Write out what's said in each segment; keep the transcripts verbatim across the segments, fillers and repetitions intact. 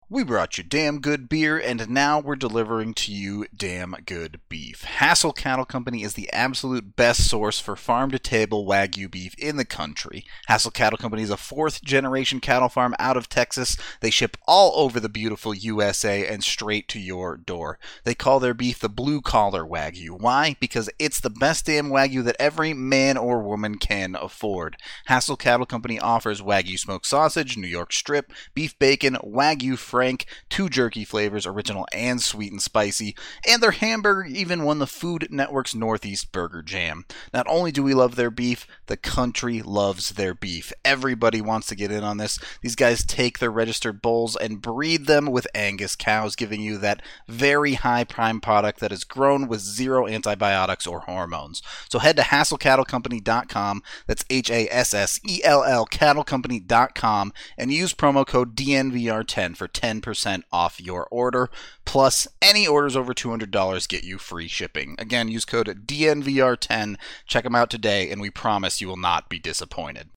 We brought you damn good beer, and now we're delivering to you damn good beef. Hassel Cattle Company is the absolute best source for farm-to-table Wagyu beef in the country. Hassel Cattle Company is a fourth-generation cattle farm out of Texas. They ship all over the beautiful U S A and straight to your door. They call their beef the blue-collar Wagyu. Why? Because it's the best damn Wagyu that every man or woman can afford. Hassel Cattle Company offers Wagyu smoked sausage, New York strip, beef bacon, Wagyu Frank, two jerky flavors, original and sweet and spicy, and their hamburger even won the Food Network's Northeast Burger Jam. Not only do we love their beef, the country loves their beef. Everybody wants to get in on this. These guys take their registered bulls and breed them with Angus cows, giving you that very high prime product that is grown with zero antibiotics or hormones. So head to hassel cattle company dot com, that's H A S S E L L cattle company dot com, and use promo code D N V R ten for ten percent off your order. Plus, any orders over two hundred dollars get you free shipping. Again, use code D N V R ten. Check them out today, and we promise you will not be disappointed.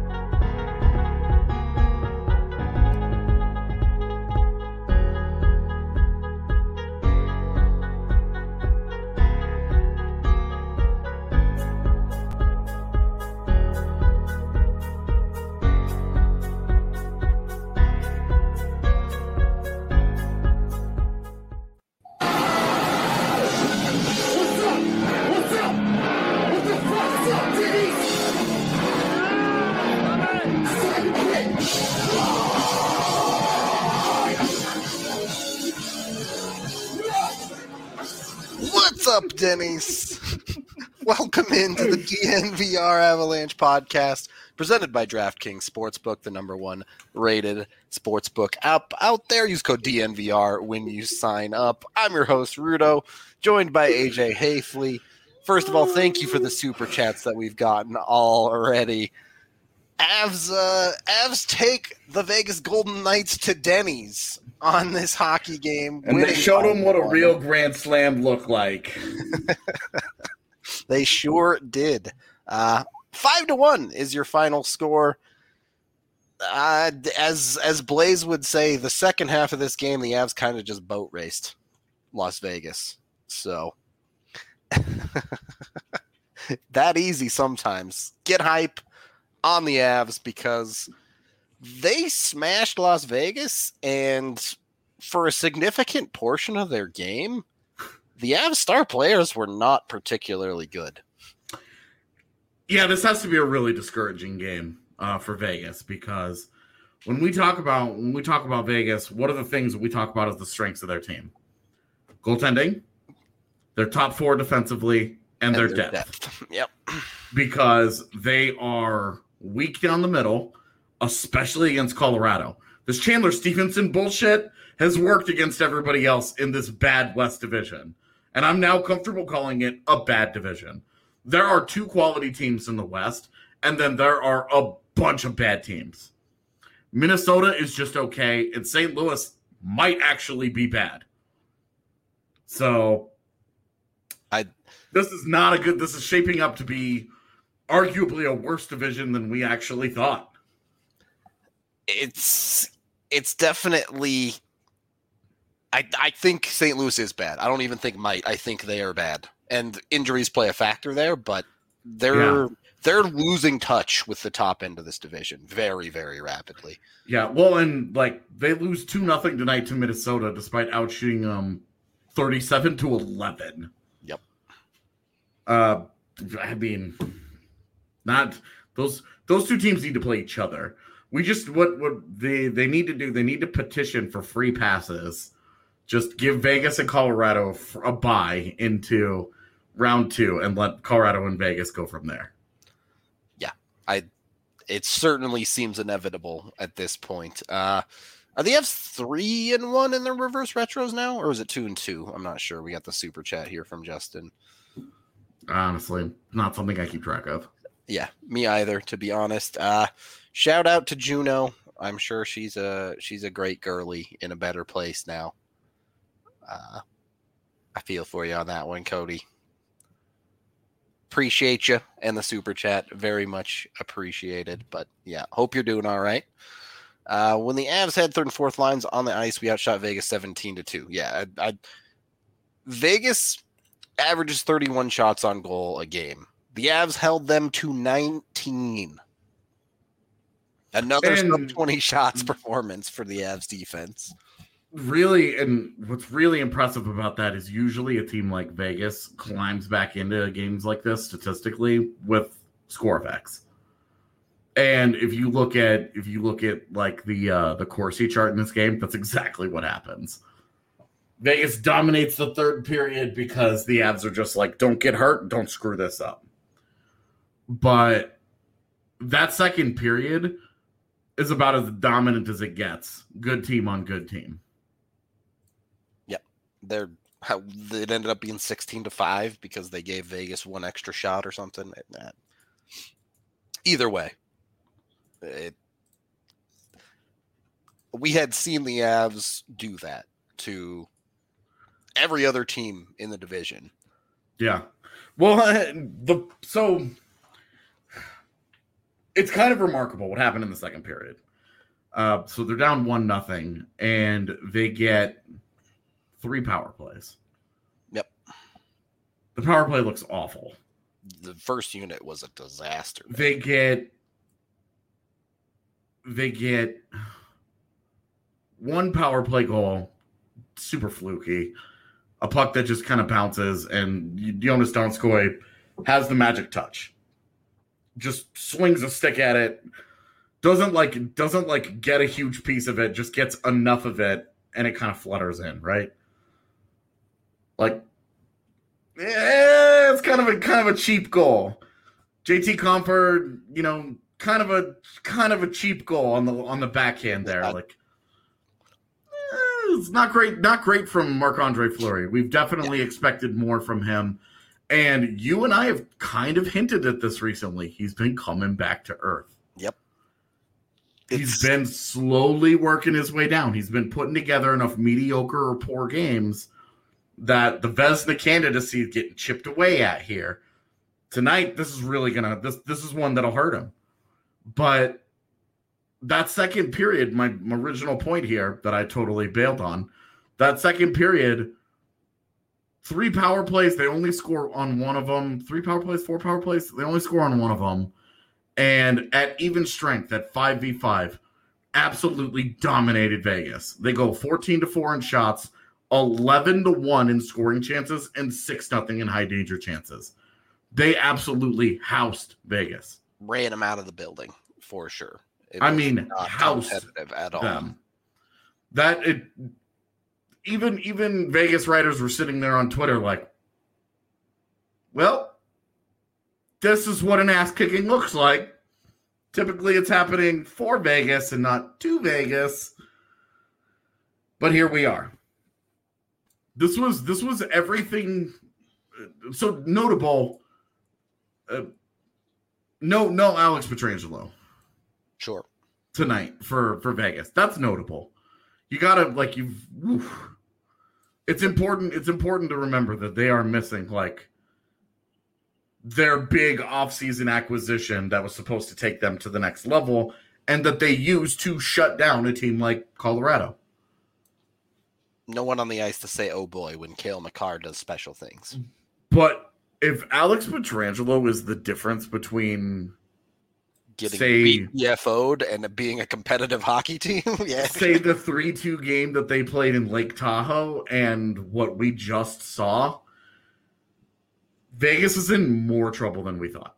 What's up, Denny's? Welcome into the D N V R Avalanche podcast, presented by DraftKings Sportsbook, the number one rated sportsbook app out there. Use code D N V R when you sign up. I'm your host, Rudo, joined by A J Hafley. First of all, thank you for the super chats that we've gotten already. Avs, uh, Avs take the Vegas Golden Knights to Denny's on this hockey game. And they showed them what a real Grand Slam looked like. They sure did. Uh, five to one is your final score. Uh, as as Blaze would say, the second half of this game, the Avs kind of just boat raced Las Vegas. So that easy sometimes. Get hype on the Avs because they smashed Las Vegas, and for a significant portion of their game, the Avs star players were not particularly good. Yeah, this has to be a really discouraging game uh, for Vegas, because when we talk about when we talk about Vegas, what are the things that we talk about as the strengths of their team? Goaltending, their top four defensively, and, and their, their depth. depth. Yep. Because they are weak down the middle, especially against Colorado. This Chandler Stevenson bullshit has worked against everybody else in this bad West division. And I'm now comfortable calling it a bad division. There are two quality teams in the West, and then there are a bunch of bad teams. Minnesota is just okay, and Saint Louis might actually be bad. So I this is not a good, this is shaping up to be arguably a worse division than we actually thought. It's it's definitely I I think Saint Louis is bad. I don't even think might. I think they are bad. And injuries play a factor there, but they're yeah. they're losing touch with the top end of this division very, very rapidly. Yeah, well, and like they lose two nothing tonight to Minnesota despite outshooting them um, thirty-seven to eleven. Yep. Uh I mean Not those those two teams need to play each other. We just what what they they need to do. They need to petition for free passes. Just give Vegas and Colorado a bye into round two and let Colorado and Vegas go from there. Yeah, I. It certainly seems inevitable at this point. Uh, are the Avs three and one in their reverse retros now, or is it two and two? I'm not sure. We got the super chat here from Justin. Honestly, not something I keep track of. Yeah, me either, to be honest. Uh, shout out to Juno. I'm sure she's a she's a great girly in a better place now. Uh, I feel for you on that one, Cody. Appreciate you and the super chat. Very much appreciated. But yeah, hope you're doing all right. Uh, when the Avs had third and fourth lines on the ice, we outshot Vegas seventeen to two. Yeah, I, I, Vegas averages thirty-one shots on goal a game. The Avs held them to nineteen. Another sub twenty shots performance for the Avs defense. Really, and what's really impressive about that is usually a team like Vegas climbs back into games like this statistically with score effects. And if you look at if you look at like the uh, the Corsi chart in this game, that's exactly what happens. Vegas dominates the third period because the Avs are just like, don't get hurt, don't screw this up. But that second period is about as dominant as it gets. Good team on good team. Yep. They're how it ended up being sixteen to five because they gave Vegas one extra shot or something. Either way. It, we had seen the Avs do that to every other team in the division. Yeah. Well, uh, the so it's kind of remarkable what happened in the second period. Uh, so they're down one nothing, and they get three power plays. Yep. The power play looks awful. The first unit was a disaster. Man. They get they get one power play goal, super fluky, a puck that just kind of bounces, and Jonas Donskoy has the magic touch. Just swings a stick at it, doesn't like doesn't like get a huge piece of it, just gets enough of it, and it kind of flutters in, right? Like, yeah, it's kind of a kind of a cheap goal. J T Compher, you know, kind of a kind of a cheap goal on the on the backhand there. Like, eh, it's not great, not great from Marc-Andre Fleury. We've definitely yeah. expected more from him. And you and I have kind of hinted at this recently. He's been coming back to earth. Yep. He's it's... been slowly working his way down. He's been putting together enough mediocre or poor games that the Vezina candidacy is getting chipped away at here. Tonight, this is really gonna this this is one that'll hurt him. But that second period, my, my original point here that I totally bailed on, that second period, three power plays, they only score on one of them. Three power plays, four power plays, they only score on one of them. And at even strength, at five v five, absolutely dominated Vegas. They go fourteen to four in shots, eleven to one in scoring chances, and six nothing in high danger chances. They absolutely housed Vegas. Ran them out of the building, for sure. It I mean, housed at all. them. That it even even Vegas writers were sitting there on Twitter like, well, this is what an ass kicking looks like. Typically, it's happening for Vegas and not to Vegas. But here we are. This was this was everything. So notable. Uh, no, no, Alex Pietrangelo. Sure. Tonight for for Vegas. That's notable. You gotta like you've. Oof. It's important. It's important to remember that they are missing like their big offseason acquisition that was supposed to take them to the next level, and that they used to shut down a team like Colorado. No one on the ice to say, "Oh boy," when Cale Makar does special things. But if Alex Pietrangelo is the difference between getting say, B F O'd and being a competitive hockey team, yeah. Say the three two game that they played in Lake Tahoe and what we just saw, Vegas is in more trouble than we thought.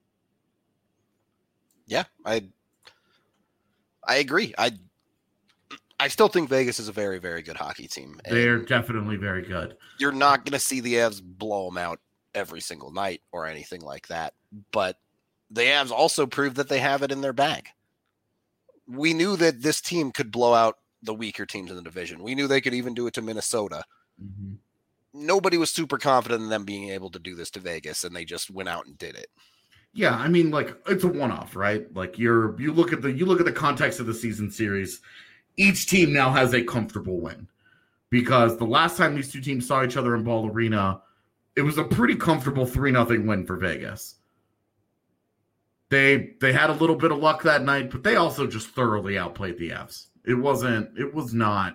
Yeah, I I agree. I I still think Vegas is a very, very good hockey team. They're definitely very good. You're not going to see the Avs blow them out every single night or anything like that. But the Avs also proved that they have it in their bag. We knew that this team could blow out the weaker teams in the division. We knew they could even do it to Minnesota. Mm-hmm. Nobody was super confident in them being able to do this to Vegas, and they just went out and did it. Yeah, I mean, like, it's a one-off, right? Like, you're you look at the you look at the context of the season series. Each team now has a comfortable win because the last time these two teams saw each other in Ball Arena, it was a pretty comfortable three nothing win for Vegas. They they had a little bit of luck that night, but they also just thoroughly outplayed the Avs. It wasn't. It was not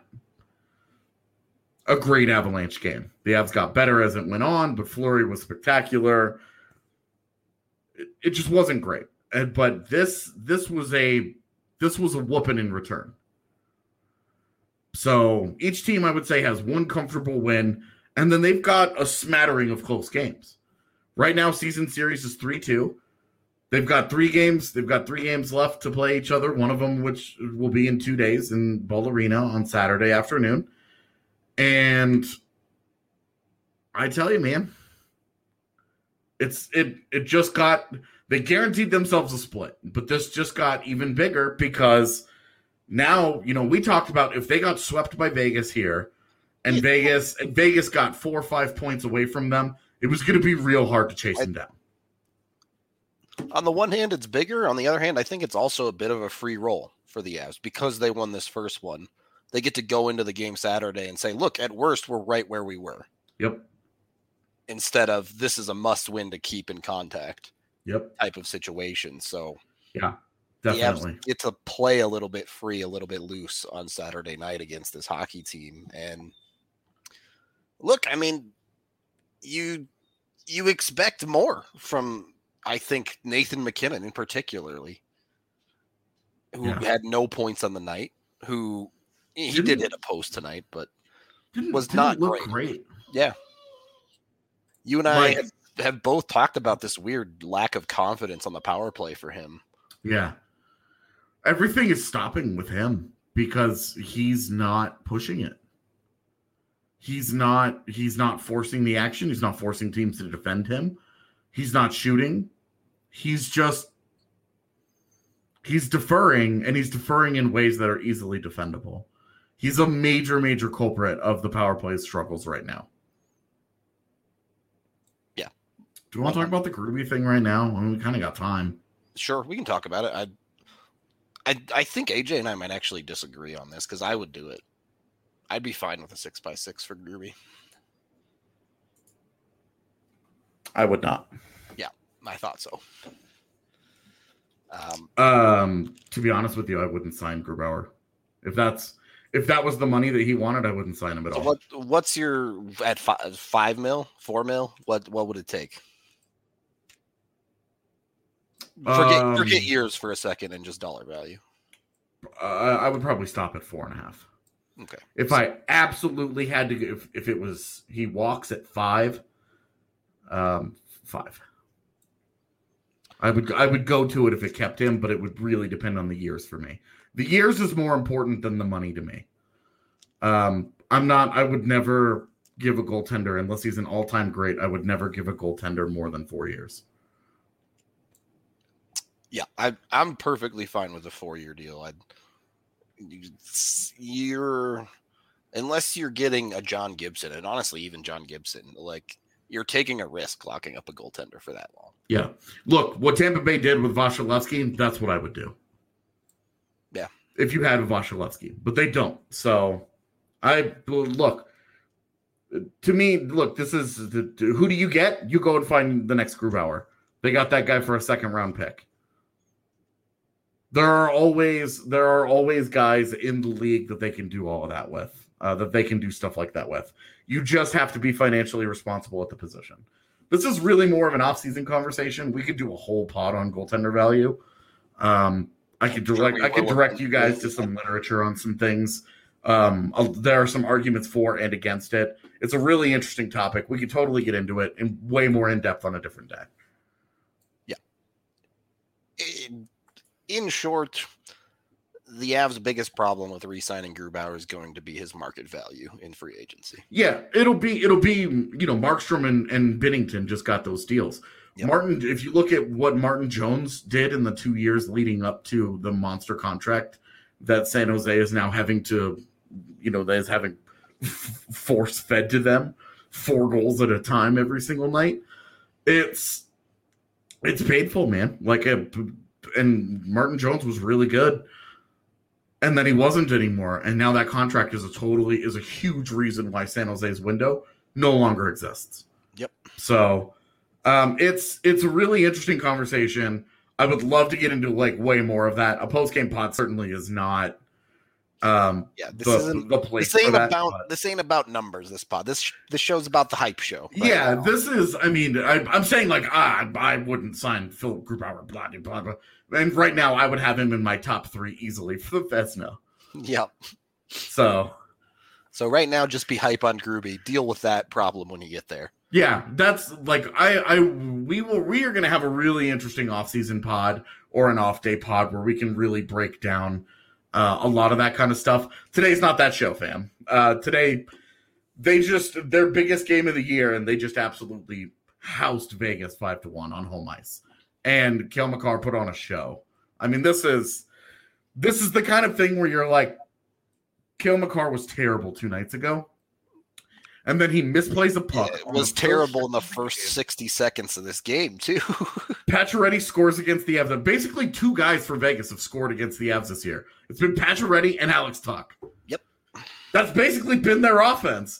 a great Avalanche game. The Avs got better as it went on, but Fleury was spectacular. It, it just wasn't great. And, but this this was a this was a whooping in return. So each team, I would say, has one comfortable win, and then they've got a smattering of close games. Right now, season series is three two. They've got three games. They've got three games left to play each other. One of them, which will be in two days in Ball Arena on Saturday afternoon. And I tell you, man, it's it it just got they guaranteed themselves a split, but this just got even bigger because now, you know, we talked about if they got swept by Vegas here and Vegas and Vegas got four or five points away from them, it was going to be real hard to chase them down. On the one hand, it's bigger. On the other hand, I think it's also a bit of a free roll for the Avs because they won this first one. They get to go into the game Saturday and say, look, at worst, we're right where we were. Yep. Instead of this is a must win to keep in contact. Yep. Type of situation. So yeah, definitely. The Avs get to play a little bit free, a little bit loose on Saturday night against this hockey team. And look, I mean, you you expect more from, I think, Nathan MacKinnon in particularly, who yeah. had no points on the night, who he didn't, did hit a post tonight, but didn't, was didn't not look great. great. Yeah. You and I like, have, have both talked about this weird lack of confidence on the power play for him. Yeah. Everything is stopping with him because he's not pushing it. He's not he's not forcing the action. He's not forcing teams to defend him. He's not shooting. He's just he's deferring, and he's deferring in ways that are easily defendable. He's a major, major culprit of the power play struggles right now. Yeah. Do you want to talk about the Groovy thing right now? I mean, we kind of got time. Sure, we can talk about it. I I I think A J and I might actually disagree on this because I would do it. I'd be fine with a six by six for Groovy. I would not. Yeah, I thought so. Um, um, to be honest with you, I wouldn't sign Grubauer. If that's if that was the money that he wanted, I wouldn't sign him at so all. what what's your at five, five mil, four mil? What what would it take? Forget um, forget years for a second and just dollar value. Uh, I would probably stop at four and a half. Okay. If I absolutely had to, if if it was he walks at five, um, five. I would I would go to it if it kept him, but it would really depend on the years for me. The years is more important than the money to me. Um, I'm not. I would never give a goaltender unless he's an all-time great. I would never give a goaltender more than four years. Yeah, I I'm perfectly fine with a four year deal. I'd you're unless you're getting a John Gibson, and honestly, even John Gibson, like you're taking a risk locking up a goaltender for that long. Yeah. Look, what Tampa Bay did with Vasilevsky, that's what I would do. Yeah. If you had a Vasilevsky, but they don't. So I look, to me, look, this is the, who do you get? You go and find the next Grubauer. They got that guy for a second round pick. There are always there are always guys in the league that they can do all of that with, uh, that they can do stuff like that with. You just have to be financially responsible at the position. This is really more of an off-season conversation. We could do a whole pod on goaltender value. Um, I could direct I could direct you guys to some literature on some things. Um, there are some arguments for and against it. It's a really interesting topic. We could totally get into it in way more in depth on a different day. Yeah. In, in short, the Avs' biggest problem with re-signing Grubauer is going to be his market value in free agency. Yeah, it'll be it'll be you know Markstrom and, and Binnington just got those deals. Yep. Martin, if you look at what Martin Jones did in the two years leading up to the monster contract that San Jose is now having to, you know, that is having force fed to them, four goals at a time every single night. It's it's painful, man. Like a, and Martin Jones was really good. And then he wasn't anymore. And now that contract is a totally is a huge reason why San Jose's window no longer exists. Yep. So um, it's it's a really interesting conversation. I would love to get into like way more of that. A post game pod certainly is not. Um, yeah, this the, isn't the place this ain't for that, about but- this ain't about numbers. This pod, this this show's about the hype show. right yeah, now. this is. I mean, I, I'm saying like ah, I wouldn't sign Philip Grubauer, blah blah blah blah. And right now, I would have him in my top three easily for the Vezina. Yep. So So right now, just be hype on Groovy. Deal with that problem when you get there. yeah, that's like I, I we will we are going to have a really interesting off-season pod or an off-day pod where we can really break down uh, a lot of that kind of stuff. Today's not that show, fam. Uh, today they just their biggest game of the year, and they just absolutely housed Vegas five to one on home ice, and Cale Makar put on a show. I mean, this is this is the kind of thing where you're like, Cale Makar was terrible two nights ago. And then he misplays a puck. It was terrible in the first sixty seconds of this game, too. Pacioretty scores against the Avs. Basically, two guys for Vegas have scored against the Avs this year. It's been Pacioretty and Alex Tuck. Yep. That's basically been their offense.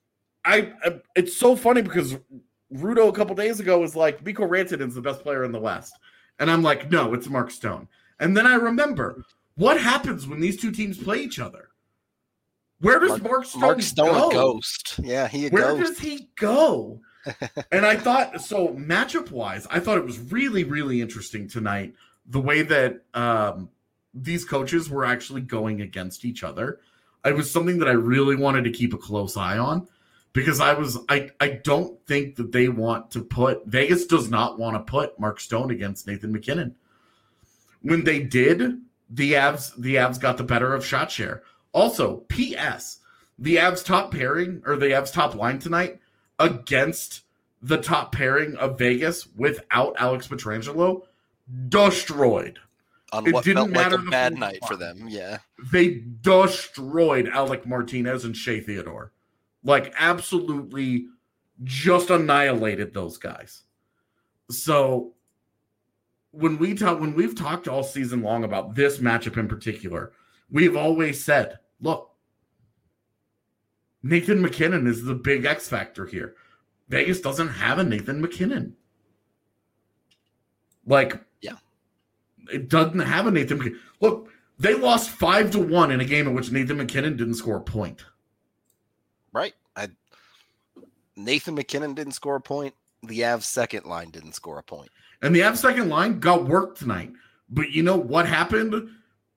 I, I It's so funny because Rudo a couple days ago was like, Mikko Rantanen's the best player in the West. And I'm like, no, it's Mark Stone. And then I remember, what happens when these two teams play each other? Where does Mark, Mark Stone, Mark Stone go? a ghost. Yeah, he a Where ghost. does he go? And I thought, so matchup wise, I thought it was really, really interesting tonight the way that um, these coaches were actually going against each other. It was something that I really wanted to keep a close eye on because I was, I, I don't think that they want to put, Vegas does not want to put Mark Stone against Nathan MacKinnon. When they did, the Avs, the Avs got the better of shot share. Also, P S, the Avs top pairing or the Avs top line tonight against the top pairing of Vegas without Alex Pietrangelo destroyed. On it what didn't felt like matter a the bad full night for spot. them. Yeah. They destroyed Alec Martinez and Shea Theodore. Like, absolutely just annihilated those guys. So when we talk, when we've talked all season long about this matchup in particular, we've always said, look, Nathan MacKinnon is the big X factor here. Vegas doesn't have a Nathan MacKinnon. Like, yeah, it doesn't have a Nathan MacKinnon. Look, they lost five to one in a game in which Nathan MacKinnon didn't score a point. Right. I, Nathan MacKinnon didn't score a point. The Avs second line didn't score a point. And the Avs second line got worked tonight. But you know what happened?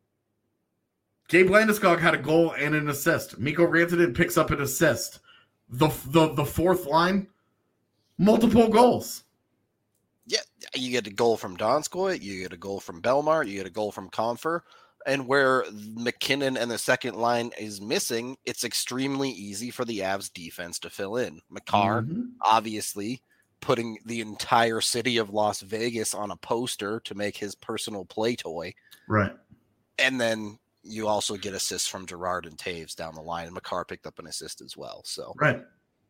Gabe Landeskog had a goal and an assist. Mikko Rantanen picks up an assist. The, the the fourth line, multiple goals. Yeah, you get a goal from Donskoy, you get a goal from Belmar, you get a goal from Confer, and where MacKinnon and the second line is missing, it's extremely easy for the Avs defense to fill in. Makar, Mm-hmm. obviously, putting the entire city of Las Vegas on a poster to make his personal play toy. Right. And then you also get assists from Gerard and Taves down the line, and Makar picked up an assist as well. So Right.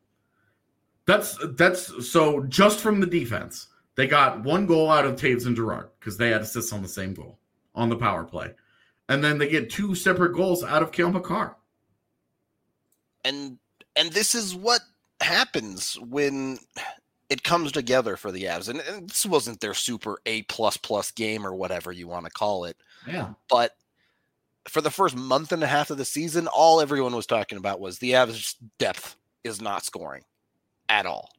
That's that's so just from the defense, they got one goal out of Taves and Gerard because they had assists on the same goal on the power play. And then they get two separate goals out of Cale Makar. and and this is what happens when it comes together for the Avs. And, and this wasn't their super A plus plus game or whatever you want to call it. Yeah. But for the first month and a half of the season, all everyone was talking about was the Avs depth is not scoring at all.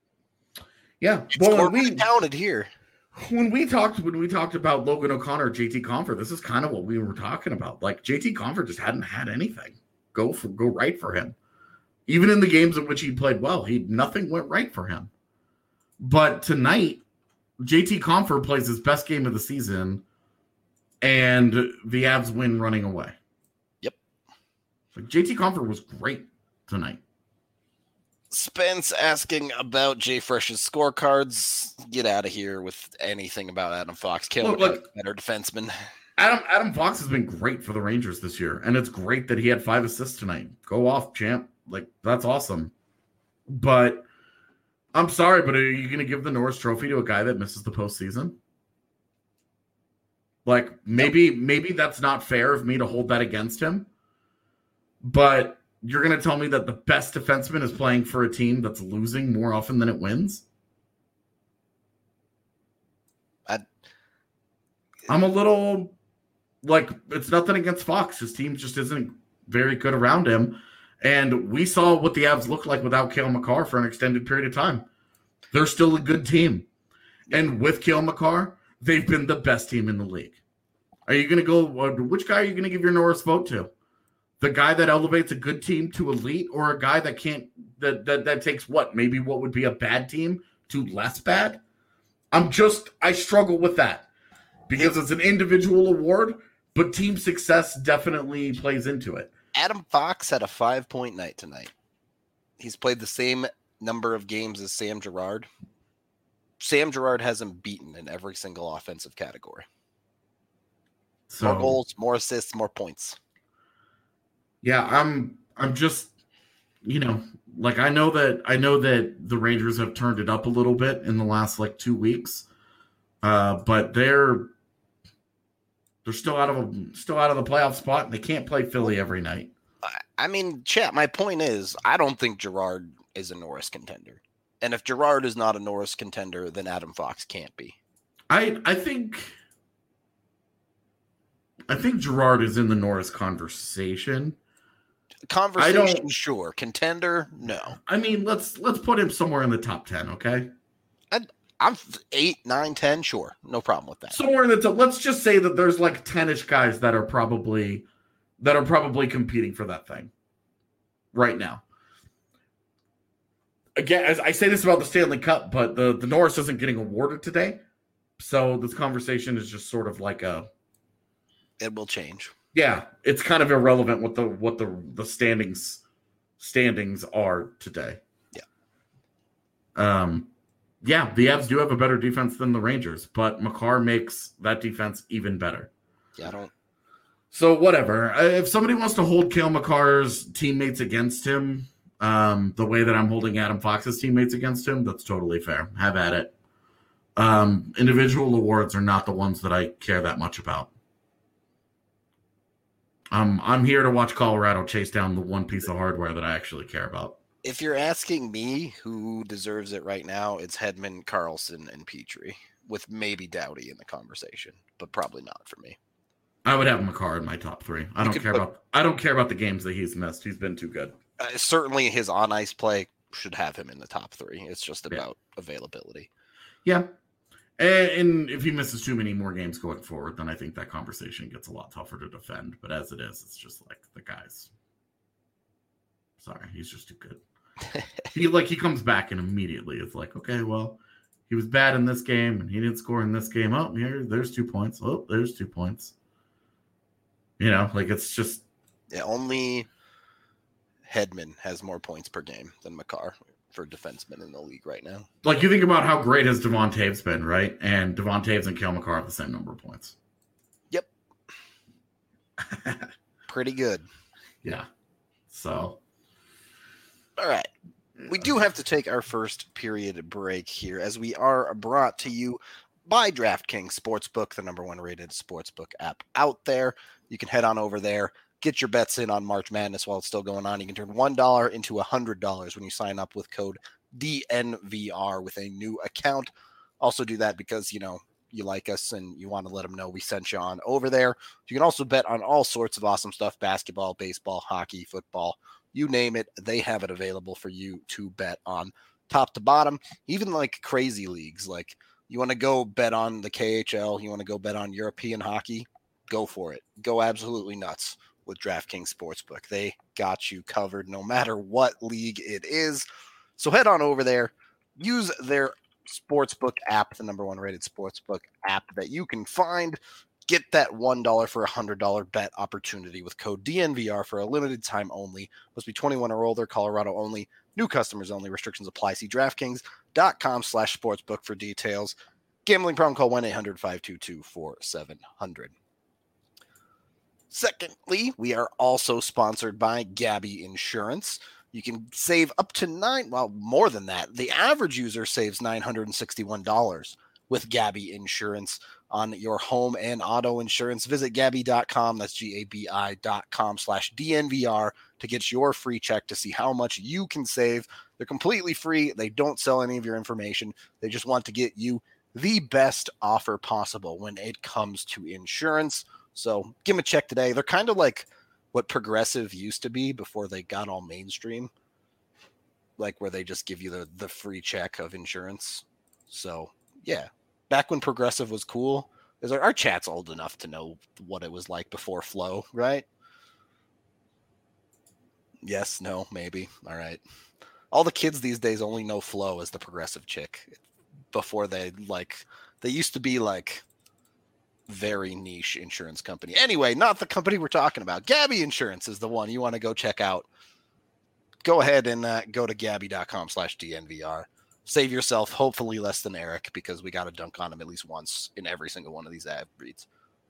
Yeah. It's Well, when corporately we, counted here. when we talked when we talked about Logan O'Connor, J T Confer, this is kind of what we were talking about. Like J T Confer just hadn't had anything go for go right for him. Even in the games in which he played well, he nothing went right for him. But tonight, J T Confer plays his best game of the season, and the Avs win running away. Yep. Like J T Confer was great tonight. Spence asking about Jay Fresh's scorecards. Get out of here with anything about Adam Fox. Kill Look, look. better defenseman. Adam Adam Fox has been great for the Rangers this year, and it's great that he had five assists tonight. Go off, champ. Like, that's awesome. But I'm sorry, but are you going to give the Norris Trophy to a guy that misses the postseason? Like, maybe maybe that's not fair of me to hold that against him. But you're going to tell me that the best defenseman is playing for a team that's losing more often than it wins? I'm a little like, it's nothing against Fox. His team just isn't very good around him. And we saw what the Avs looked like without Cale Makar for an extended period of time. They're still a good team. And with Cale Makar, they've been the best team in the league. Are you going to go, which guy are you going to give your Norris vote to? The guy that elevates a good team to elite, or a guy that can't, that, that, that takes what, maybe what would be a bad team to less bad? I'm just, I struggle with that because it's an individual award, but team success definitely plays into it. Adam Fox had a five-point night tonight. He's played the same number of games as Sam Girard. Sam Girard has him beaten in every single offensive category. So, more goals, more assists, more points. Yeah, I'm I'm just, you know, like I know that I know that the Rangers have turned it up a little bit in the last like two weeks. Uh, but they're they're still out of a, still out of the playoff spot, and they can't play Philly every night. I mean, chat, my point is I don't think Girard is a Norris contender. And if Girard is not a Norris contender, then Adam Fox can't be. I I think I think Girard is in the Norris conversation. Conversation, sure. Contender, no. I mean, let's let's put him somewhere in the top ten, okay? I, I'm eight, nine, ten, sure. No problem with that. Somewhere in the top. Let's just say that there's like ten-ish guys that are probably that are probably competing for that thing right now. Again, as I say this about the Stanley Cup, but the, the Norris isn't getting awarded today. So this conversation is just sort of like a it will change. Yeah, it's kind of irrelevant what the what the the standings standings are today. Yeah. Um yeah, the Avs do have a better defense than the Rangers, but Makar makes that defense even better. Yeah, I don't So whatever. If somebody wants to hold Cale Makar's teammates against him, um, the way that I'm holding Adam Fox's teammates against him, that's totally fair. Have at it. Um, individual awards are not the ones that I care that much about. Um, I'm here to watch Colorado chase down the one piece of hardware that I actually care about. If you're asking me who deserves it right now, it's Hedman, Carlson, and Petrie, with maybe Doughty in the conversation, but probably not for me. I would have Makar in my top three. I don't care put, about. I don't care about the games that he's missed. He's been too good. Uh, certainly, his on ice play should have him in the top three. It's just about yeah. availability. Yeah, and, and if he misses too many more games going forward, then I think that conversation gets a lot tougher to defend. But as it is, it's just like the guys. Sorry, he's just too good. he like he comes back and immediately it's like, okay, well, he was bad in this game and he didn't score in this game. Oh, here, there's two points. Oh, there's two points. You know, like it's just yeah, only Hedman has more points per game than Makar for defensemen in the league right now. Like you think about how great has Devon Taves been, right? And Devon Taves and Cale Makar have the same number of points. Yep. Pretty good. Yeah. So all right. We do have to take our first period break here as we are brought to you by DraftKings Sportsbook, the number one rated sportsbook app out there. You can head on over there, get your bets in on March Madness while it's still going on. You can turn one dollar into one hundred dollars when you sign up with code D N V R with a new account. Also do that because, you know, you like us and you want to let them know we sent you on over there. You can also bet on all sorts of awesome stuff, basketball, baseball, hockey, football, you name it. They have it available for you to bet on top to bottom, even like crazy leagues. Like you want to go bet on the K H L, you want to go bet on European hockey, go for it. Go absolutely nuts with DraftKings Sportsbook. They got you covered no matter what league it is. So head on over there, use their Sportsbook app, the number one rated Sportsbook app that you can find. Get that one dollar for a one hundred dollars bet opportunity with code D N V R for a limited time only. Must be twenty-one or older, Colorado only, new customers only, restrictions apply. See DraftKings.com slash sportsbook for details. Gambling problem, call one eight hundred five two two four seven zero zero. Secondly, we are also sponsored by Gabby Insurance. You can save up to nine, well, more than that. The average user saves nine hundred sixty-one dollars with Gabby Insurance on your home and auto insurance. Visit Gabby dot com, that's G A B I dot com slash D N V R to get your free check to see how much you can save. They're completely free. They don't sell any of your information. They just want to get you the best offer possible when it comes to insurance. So give them a check today. They're kind of like what Progressive used to be before they got all mainstream, like where they just give you the, the free check of insurance. So yeah, back when Progressive was cool, because our, our chat's old enough to know what it was like before Flow, right? Yes, no, maybe. All right. All the kids these days only know Flo as the Progressive chick. Before they like, they used to be like very niche insurance company. Anyway, not the company we're talking about. Gabby Insurance is the one you want to go check out. Go ahead and uh, go to gabby.com slash DNVR. Save yourself, hopefully less than Eric, because we got to dunk on him at least once in every single one of these ad reads.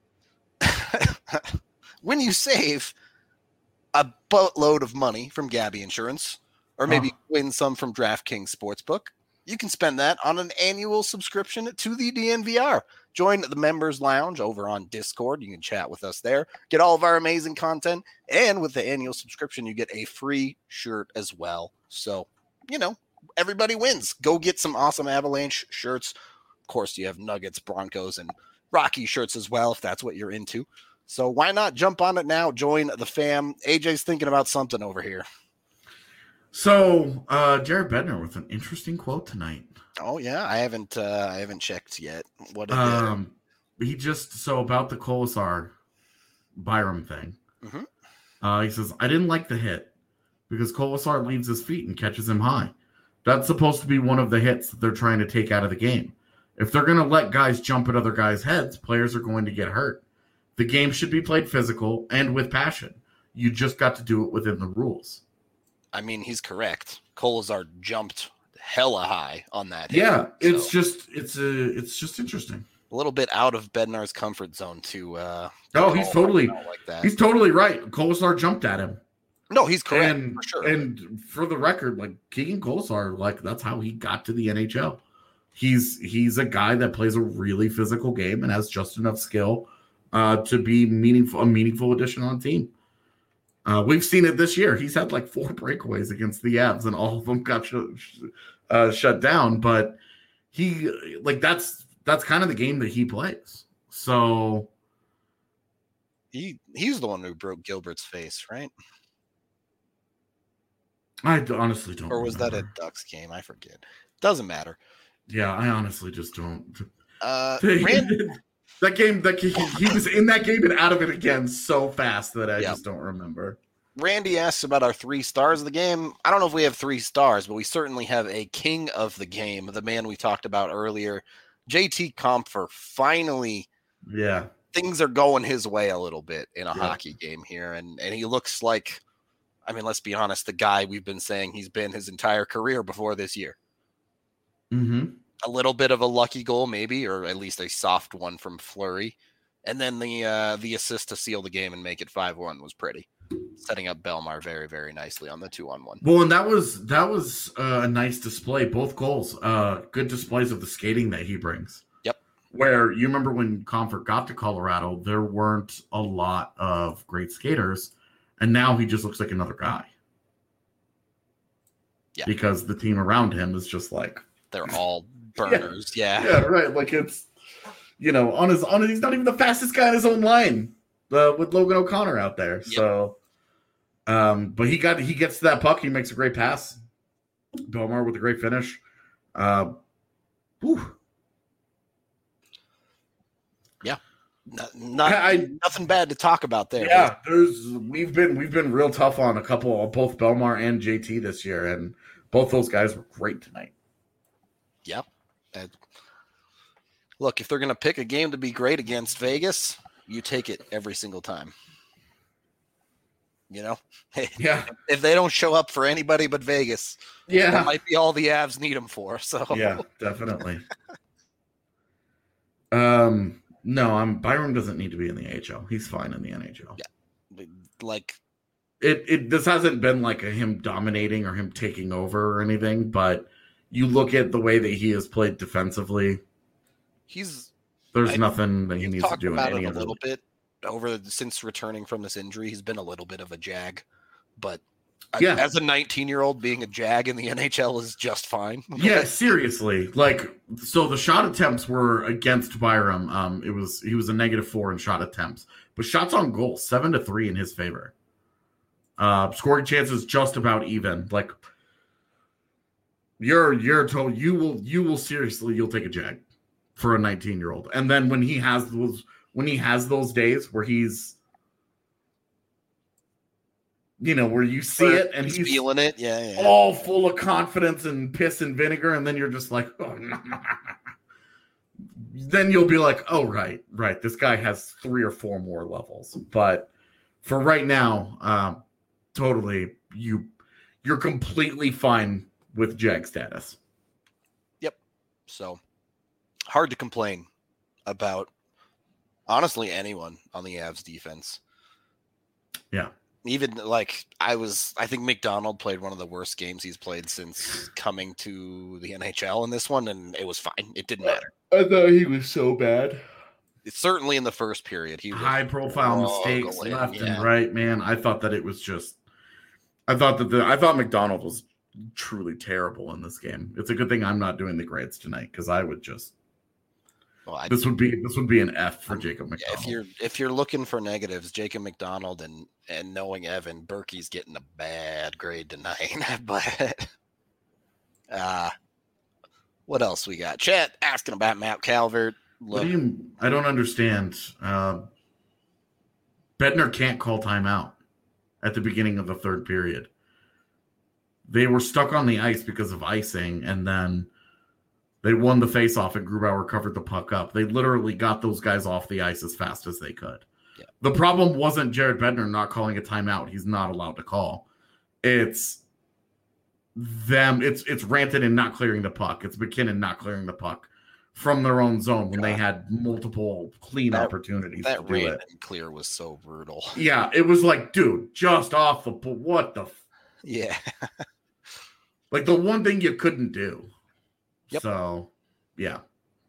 When you save a boatload of money from Gabby Insurance, or maybe oh. win some from DraftKings Sportsbook, you can spend that on an annual subscription to the D N V R. Join the members lounge over on Discord. You can chat with us there, get all of our amazing content, and with the annual subscription, you get a free shirt as well. So, you know, everybody wins. Go get some awesome Avalanche shirts. Of course, you have Nuggets, Broncos, and Rocky shirts as well, if that's what you're into. So why not jump on it now? Join the fam. A J's thinking about something over here. So, uh, Jared Bednar with an interesting quote tonight. Oh yeah, I haven't, uh, I haven't checked yet. What? Did um, he just so about the Kolesar Byram thing. Mm-hmm. Uh, he says, "I didn't like the hit because Kolesar leaves his feet and catches him high. That's supposed to be one of the hits that they're trying to take out of the game. If they're going to let guys jump at other guys' heads, players are going to get hurt. The game should be played physical and with passion. You just got to do it within the rules." I mean, he's correct. Kolesar jumped hella high on that. Yeah, hit, it's so. just it's a it's just interesting. A little bit out of Bednar's comfort zone to. Uh, oh, he's totally like that. He's totally right. Kolesar jumped at him. No, he's correct and, for sure. And for the record, like Keegan Kolesar, like that's how he got to the N H L. He's he's a guy that plays a really physical game and has just enough skill uh, to be meaningful a meaningful addition on the team. Uh, we've seen it this year. He's had like four breakaways against the Avs, and all of them got sh- sh- uh, shut down. But he, like, that's that's kind of the game that he plays. So he he's the one who broke Gilbert's face, right? I honestly don't. Or was remember. that a Ducks game? I forget. Doesn't matter. Yeah, I honestly just don't. Uh, Rand- That game, that he, he was in that game and out of it again so fast that I yep. just don't remember. Randy asks about our three stars of the game. I don't know if we have three stars, but we certainly have a king of the game, the man we talked about earlier, J T Compher. Finally, yeah, things are going his way a little bit in a yeah. hockey game here, and and he looks like, I mean, let's be honest, the guy we've been saying he's been his entire career before this year. Mm-hmm. A little bit of a lucky goal, maybe, or at least a soft one from Fleury. And then the uh, the assist to seal the game and make it five one was pretty. Setting up Belmar very, very nicely on the two on one. Well, and that was that was uh, a nice display. Both goals, uh, good displays of the skating that he brings. Yep. Where you remember when Comfort got to Colorado, there weren't a lot of great skaters, and now he just looks like another guy. Yeah. Because the team around him is just like they're all burners. Yeah. yeah. Yeah, right. Like it's, you know, on his on he's not even the fastest guy in his own line uh, with Logan O'Connor out there. Yep. So, um, but he got he gets to that puck. He makes a great pass. Belmar with a great finish. Uh, whew. Yeah. Not, not I, nothing bad to talk about there. Yeah, there's we've been we've been real tough on a couple of both Belmar and J T this year, and both those guys were great tonight. Yep. And look, if they're going to pick a game to be great against Vegas, you take it every single time. You know? Yeah. If they don't show up for anybody but Vegas, yeah, that might be all the Avs need them for. So yeah, definitely. um, no, I'm Byram doesn't need to be in the A H L. He's fine in the N H L. Yeah, like it. It this hasn't been like a him dominating or him taking over or anything, but you look at the way that he has played defensively. He's there's I, nothing that he needs to do about in any it a other little bit over since returning from this injury. He's been a little bit of a jag, but Yeah. As a nineteen-year-old, being a Jag in the N H L is just fine. Yeah, seriously. Like, so the shot attempts were against Byram. Um, it was he was a negative four in shot attempts, but shots on goal seven to three in his favor. Uh, scoring chances just about even. Like, you're you're told you will you will seriously you'll take a Jag for a nineteen-year-old, and then when he has those when he has those days where he's you know, where you see it and he's, he's feeling it, yeah, yeah, all full of confidence and piss and vinegar, and then you're just like, oh, no. Then you'll be like, oh, right, right, this guy has three or four more levels. But for right now, um, totally, you you're completely fine with Jag status. Yep. So hard to complain about, honestly, anyone on the Avs defense. Yeah. Even like I was, I think McDonald played one of the worst games he's played since coming to the N H L in this one, and it was fine. It didn't matter. I thought he was so bad. It's certainly in the first period. He was high profile mistakes struggling, left yeah. and right, man. I thought that it was just, I thought that the, I thought McDonald was truly terrible in this game. It's a good thing I'm not doing the grades tonight because I would just. Well, I, this would be this would be an F for Jacob McDonald. If you're if you're looking for negatives, Jacob McDonald and and knowing Evan, Berkey's getting a bad grade tonight. But uh what else we got? Chat asking about Matt Calvert. Look, what do you? I don't understand. Uh, Bednar can't call timeout at the beginning of the third period. They were stuck on the ice because of icing, and then. They won the faceoff and Grubauer covered the puck up. They literally got those guys off the ice as fast as they could. Yeah. The problem wasn't Jared Bednar not calling a timeout. He's not allowed to call. It's them. It's it's Rantanen and not clearing the puck. It's McKinnon not clearing the puck from their own zone when God. They had multiple clean that, opportunities that to do it. That clear was so brutal. Yeah, it was like, dude, just off the what the f- yeah, like the one thing you couldn't do. Yep. So, yeah.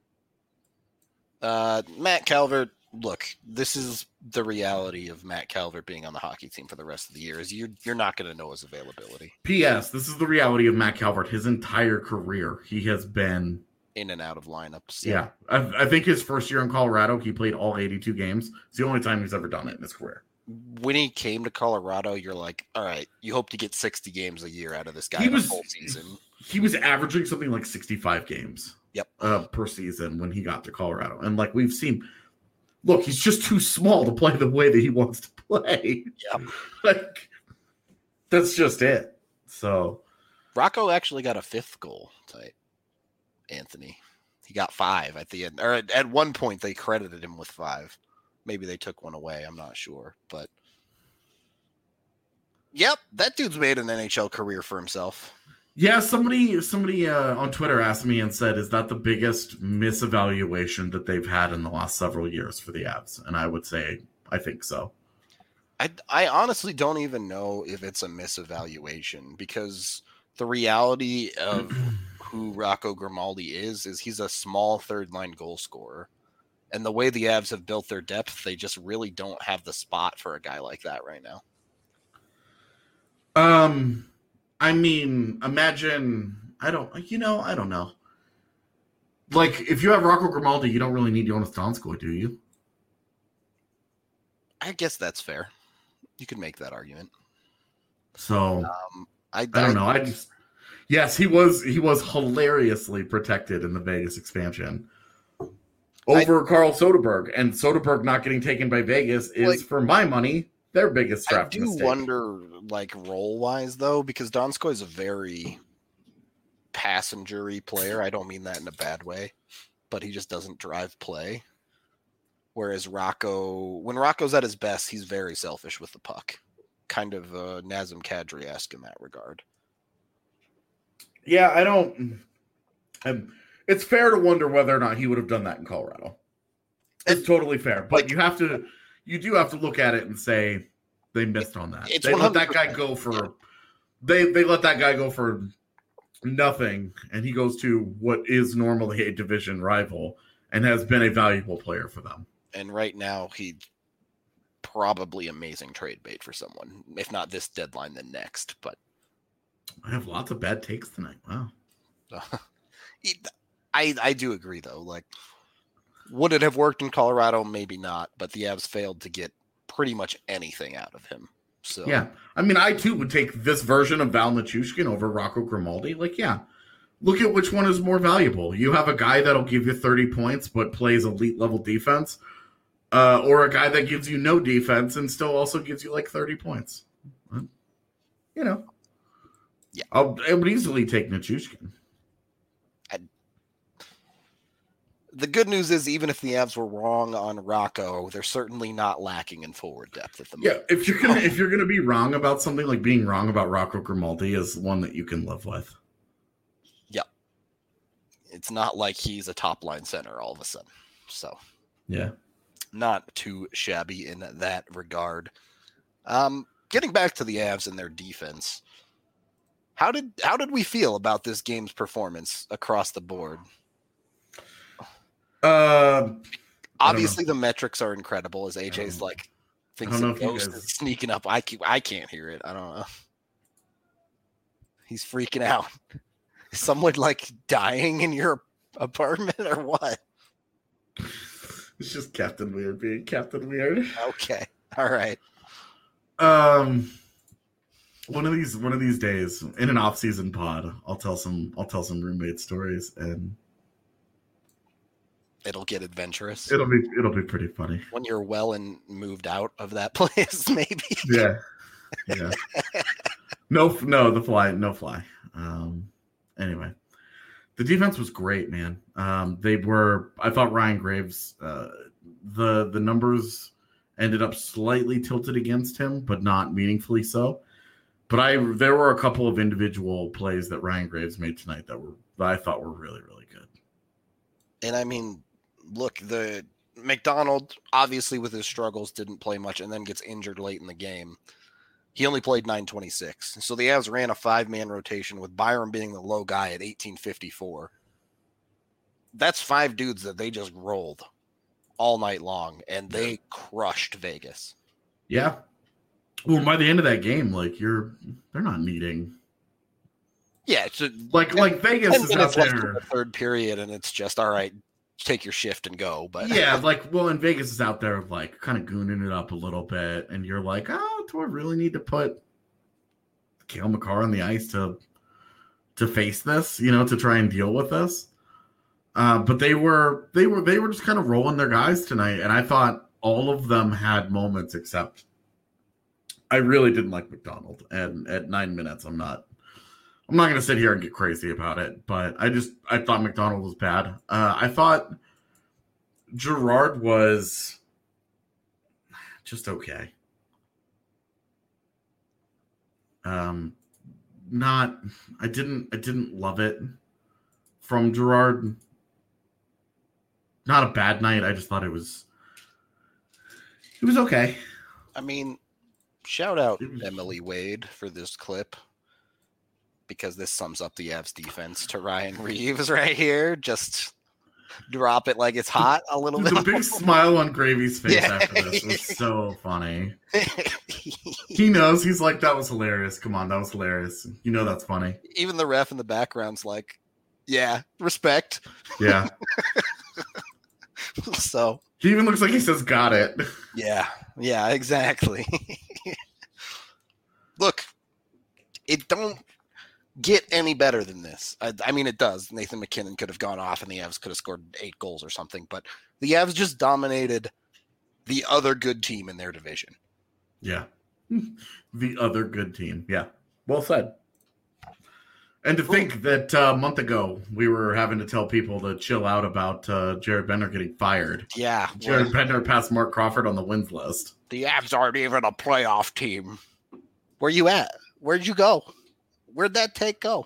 Uh, Matt Calvert, look, this is the reality of Matt Calvert being on the hockey team for the rest of the year. Is you're you're not going to know his availability. P S. This is the reality of Matt Calvert. His entire career, he has been in and out of lineups. Yeah, I, I think his first year in Colorado, he played all eighty-two games. It's the only time he's ever done it in his career. When he came to Colorado, you're like, all right, you hope to get sixty games a year out of this guy he was, the whole season. He was averaging something like sixty-five games yep. uh, per season when he got to Colorado. And like we've seen, look, he's just too small to play the way that he wants to play. Yep. Like, that's just it. So Rocco actually got a fifth goal tonight, Anthony. He got five at the end. Or at, at one point, they credited him with five. Maybe they took one away. I'm not sure. But, yep, that dude's made an N H L career for himself. Yeah, somebody somebody uh, on Twitter asked me and said, is that the biggest misevaluation that they've had in the last several years for the Avs? And I would say, I think so. I, I honestly don't even know if it's a misevaluation because the reality of who Rocco Grimaldi is, is he's a small third-line goal scorer. And the way the Avs have built their depth, they just really don't have the spot for a guy like that right now. Um... I mean, imagine, I don't, you know, I don't know. Like, if you have Rocco Grimaldi, you don't really need Jonas Donskoi, do you? I guess that's fair. You could make that argument. So, um, I, I don't know. I just, yes, he was, he was hilariously protected in the Vegas expansion over I, Carl Soderberg. And Soderberg not getting taken by Vegas is, like, for my money, their biggest draft mistake. I do mistake. wonder, like, role-wise, though, because Donskoi is a very passenger-y player. I don't mean that in a bad way, but he just doesn't drive play. Whereas Rocco, when Rocco's at his best, he's very selfish with the puck. Kind of uh, Nazem Kadri-esque in that regard. Yeah, I don't... I'm, it's fair to wonder whether or not he would have done that in Colorado. It's and, totally fair, but like, you have to... You do have to look at it and say they missed on that. They let that guy go for they they let that guy go for nothing, and he goes to what is normally a division rival and has been a valuable player for them. And right now, he probably amazing trade bait for someone. If not this deadline, then next. But I have lots of bad takes tonight. Wow. I I do agree though. Like, would it have worked in Colorado? Maybe not. But the Avs failed to get pretty much anything out of him. So yeah, I mean, I too would take this version of Val Nichushkin over Rocco Grimaldi. Like, yeah, look at which one is more valuable. You have a guy that'll give you thirty points but plays elite level defense, uh, or a guy that gives you no defense and still also gives you like thirty points. You know, yeah, I'll, I would easily take Nichushkin. The good news is, even if the Avs were wrong on Rocco, they're certainly not lacking in forward depth at the moment. Yeah, if you're gonna if you're gonna be wrong about something, like being wrong about Rocco Grimaldi is one that you can live with. Yeah, it's not like he's a top line center all of a sudden. So yeah, not too shabby in that regard. Um, getting back to the Avs and their defense, how did how did we feel about this game's performance across the board? Uh, Obviously, the metrics are incredible. As A J's like thinks I don't know the if you ghost guys- is sneaking up. I can't, I can't hear it. I don't know. He's freaking out. Is someone like dying in your apartment or what? It's just Captain Weird being Captain Weird. Okay, all right. Um, one of these one of these days in an off-season pod, I'll tell some I'll tell some roommate stories, and It'll get adventurous. it'll be it'll be pretty funny. When you're well and moved out of that place, maybe. Yeah, yeah. No, no, the fly, no fly. Um, anyway, the defense was great, man. Um, they were. I thought Ryan Graves. Uh, the the numbers ended up slightly tilted against him, but not meaningfully so. But I there were a couple of individual plays that Ryan Graves made tonight that were that I thought were really really good. And I mean, look, the McDonald obviously with his struggles didn't play much and then gets injured late in the game. He only played nine twenty-six. So the Avs ran a five-man rotation with Byram being the low guy at eighteen fifty-four. That's five dudes that they just rolled all night long, and they crushed Vegas. Yeah. Well, by the end of that game, like you're, they're not needing. Yeah, it's a, Like like Vegas ten is out minutes left in there. the third period, and it's just all right. Take your shift and go. But Yeah, like well, and Vegas is out there like kind of gooning it up a little bit, and you're like, oh, do I really need to put Cale Makar on the ice to to face this? You know, to try and deal with this. Uh, but they were they were they were just kind of rolling their guys tonight, and I thought all of them had moments except I really didn't like McDonald. And at nine minutes, I'm not. I'm not going to sit here and get crazy about it, but I just I thought McDonald was bad. Uh, I thought Gerard was just okay. Um, not I didn't I didn't love it from Gerard. Not a bad night. I just thought it was it was okay. I mean, shout out It was- Emily Wade for this clip, because this sums up the Avs defense to Ryan Reeves right here. Just drop it like it's hot a little The bit. big smile on Gravy's face Yeah. after this was so funny. He knows. He's like, that was hilarious. Come on, that was hilarious. You know that's funny. Even the ref in the background's like, yeah, respect. Yeah. So, He even looks like he says, got it. yeah, yeah, exactly. Look, it don't get any better than this. I, I mean, it does. Nathan McKinnon could have gone off and the Avs could have scored eight goals or something, but the Avs just dominated the other good team in their division. Yeah. The other good team. Yeah. Well said. And to think that uh, a month ago we were having to tell people to chill out about uh, Jared Bender getting fired. Yeah. Jared well, Bender passed Mark Crawford on the wins list. the Avs aren't even a playoff team. Where you at? Where'd you go? Where'd that take go?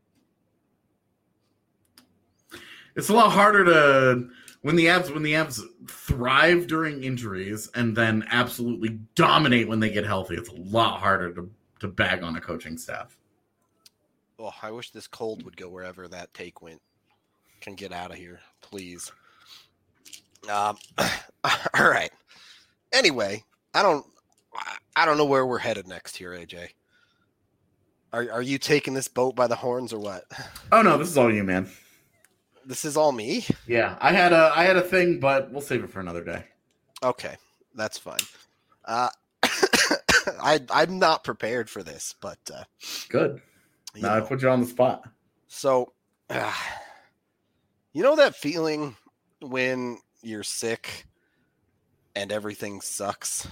It's a lot harder to when the Avs when the Avs thrive during injuries and then absolutely dominate when they get healthy. It's a lot harder to, to bag on a coaching staff. Oh, I wish this cold would go wherever that take went. Can get out of here, please. Um, all right. Anyway, I don't I don't know where we're headed next here, A J. Are are you taking this boat by the horns or what? Oh no, this is all you, man. This is all me? Yeah, I had a I had a thing, but we'll save it for another day. Okay, that's fine. Uh, I I'm not prepared for this, but uh, Good. you Now I know. put you on the spot. So, uh, you know that feeling when you're sick and everything sucks?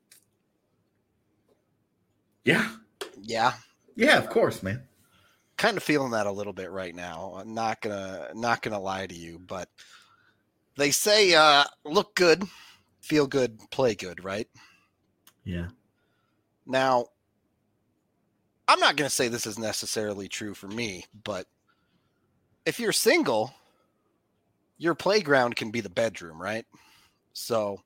Yeah. Yeah, Yeah, of course, man. kind of feeling that a little bit right now. I'm not gonna not gonna lie to you, but they say uh, look good, feel good, play good, right? Yeah. Now, I'm not gonna say this is necessarily true for me, but if you're single, your playground can be the bedroom, right? So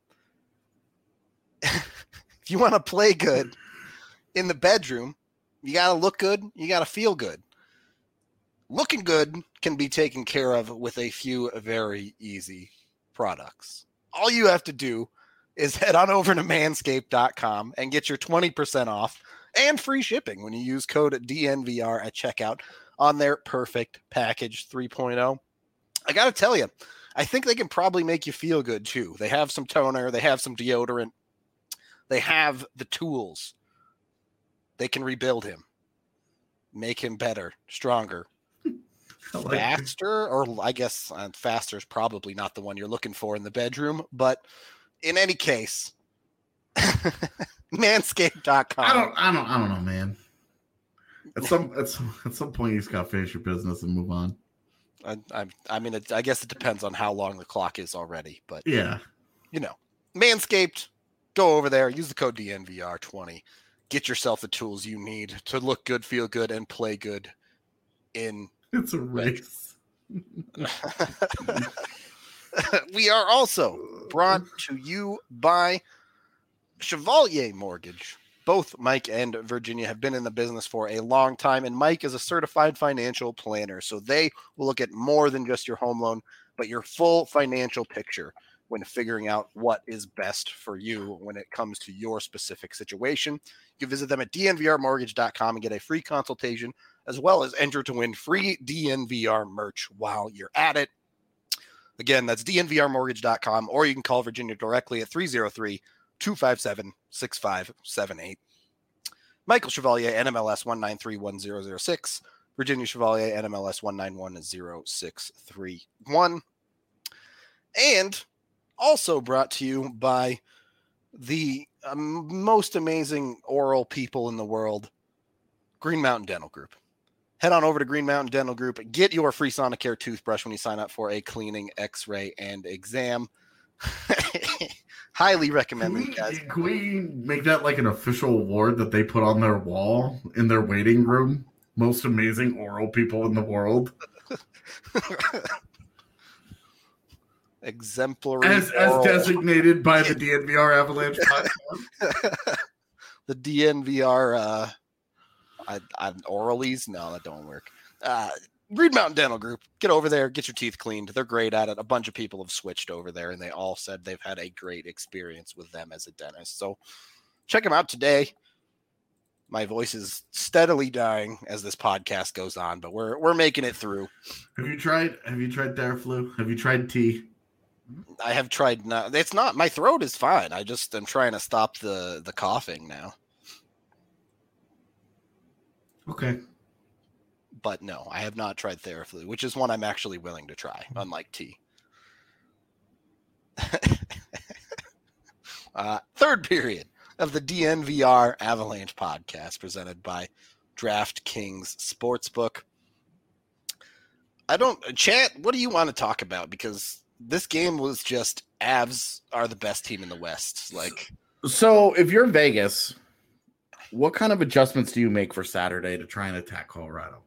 if you want to play good in the bedroom, you got to look good, you got to feel good. Looking good can be taken care of with a few very easy products. All you have to do is head on over to manscaped dot com and get your twenty percent off and free shipping when you use code D N V R at checkout on their Perfect Package three point oh. I got to tell you, I think they can probably make you feel good too. They have some toner, they have some deodorant, they have the tools. They can rebuild him, make him better, stronger, like faster, or I guess uh, faster is probably not the one you're looking for in the bedroom. But in any case, manscaped dot com. I don't I don't I don't know, man. At some at some, at some point you just gotta finish your business and move on. I, I, I mean, it, I guess it depends on how long the clock is already. But, Yeah. you know, Manscaped, go over there, use the code D N V R twenty. Get yourself the tools you need to look good, feel good, and play good in. It's a race. We are also brought to you by Chevalier Mortgage. Both Mike and Virginia have been in the business for a long time, and Mike is a certified financial planner. So they will look at more than just your home loan, but your full financial picture when figuring out what is best for you when it comes to your specific situation. You can visit them at D N V R mortgage dot com and get a free consultation, as well as enter to win free D N V R merch while you're at it. Again, that's D N V R mortgage dot com, or you can call Virginia directly at three oh three, two five seven, six five seven eight. Michael Chevalier, N M L S one nine three one zero zero six. Virginia Chevalier, N M L S one nine one zero six three one. And also brought to you by the um, most amazing oral people in the world, Green Mountain Dental Group. Head on over to Green Mountain Dental Group. Get your free Sonicare toothbrush when you sign up for a cleaning, x-ray, and exam. Highly recommend Can it, we, guys. can we make that like an official award that they put on their wall in their waiting room? Most amazing oral people in the world. Exemplary. As, as oral. designated by the D N V R Avalanche podcast. The D N V R uh, I, I, oralies? No, that don't work. Uh, Green Mountain Dental Group. Get over there. Get your teeth cleaned. They're great at it. A bunch of people have switched over there, and they all said they've had a great experience with them as a dentist. So check them out today. My voice is steadily dying as this podcast goes on, but we're we're making it through. Have you tried? Have you tried Theraflu? Have you tried tea? I have tried. Not, it's not. My throat is fine. I just am trying to stop the the coughing now. Okay. But no, I have not tried Theraflu, which is one I'm actually willing to try, unlike tea. uh, third period of the D N V R Avalanche podcast presented by DraftKings Sportsbook. I don't, chat, what do you want to talk about? Because this game was just, Avs are the best team in the West. Like, So if you're Vegas, what kind of adjustments do you make for Saturday to try and attack Colorado?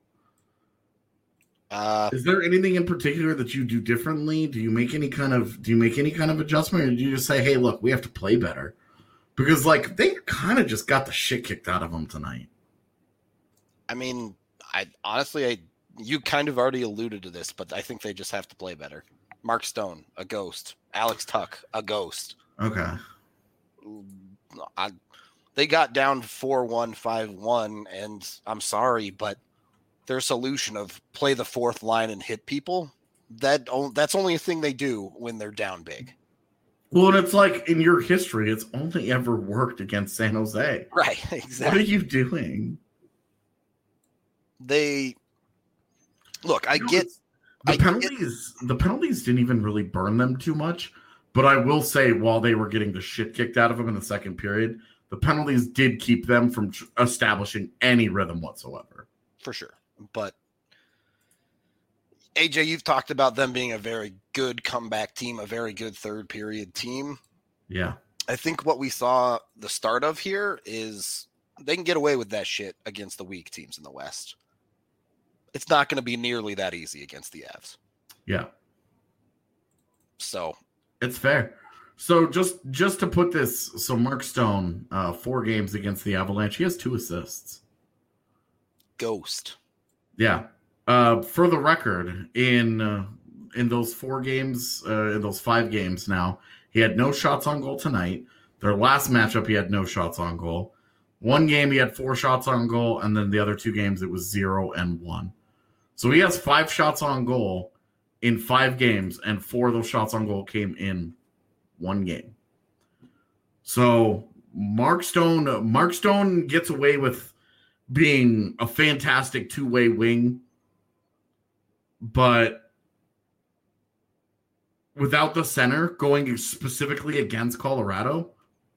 uh, Is there anything in particular that you do differently? Do you make any kind of do you make any kind of adjustment, or do you just say, "Hey, look, we have to play better"? Because like they kind of just got the shit kicked out of them tonight. I mean, I honestly, I you kind of already alluded to this, but I think they just have to play better. Mark Stone, a ghost. Alex Tuck, a ghost. Okay. I, they got down four one, five one, and I'm sorry, but their solution of play the fourth line and hit people, that that's only a thing they do when they're down big. Well, and it's like in your history, it's only ever worked against San Jose. Right, exactly. What are you doing? They look, I You know, get the I penalties. Get, the penalties didn't even really burn them too much. But I will say, while they were getting the shit kicked out of them in the second period, the penalties did keep them from tr- establishing any rhythm whatsoever. For sure. But A J, you've talked about them being a very good comeback team, a very good third period team. Yeah. I think what we saw the start of here is they can get away with that shit against the weak teams in the West. It's not going to be nearly that easy against the Avs. Yeah. So it's fair. So just just to put this, so Mark Stone, uh, four games against the Avalanche, he has two assists. Ghost. Yeah. Uh, for the record, in uh, in those four games, uh, in those five games now, he had no shots on goal tonight. Their last matchup, he had no shots on goal. One game, he had four shots on goal, and then the other two games, it was zero and one. So he has five shots on goal in five games, and four of those shots on goal came in one game. So Mark Stone, Mark Stone gets away with being a fantastic two-way wing, but without the center going specifically against Colorado,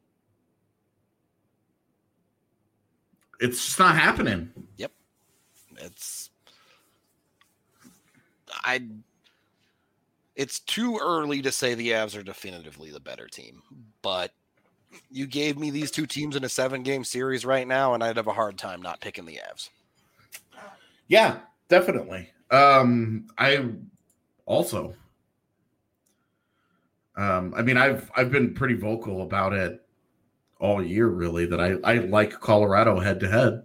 it's just not happening. Yep. It's I it's too early to say the Avs are definitively the better team, but you gave me these two teams in a seven-game series right now, and I'd have a hard time not picking the Avs. Yeah, definitely. Um, I also, um, I mean, I've I've been pretty vocal about it all year, really, that I, I like Colorado head-to-head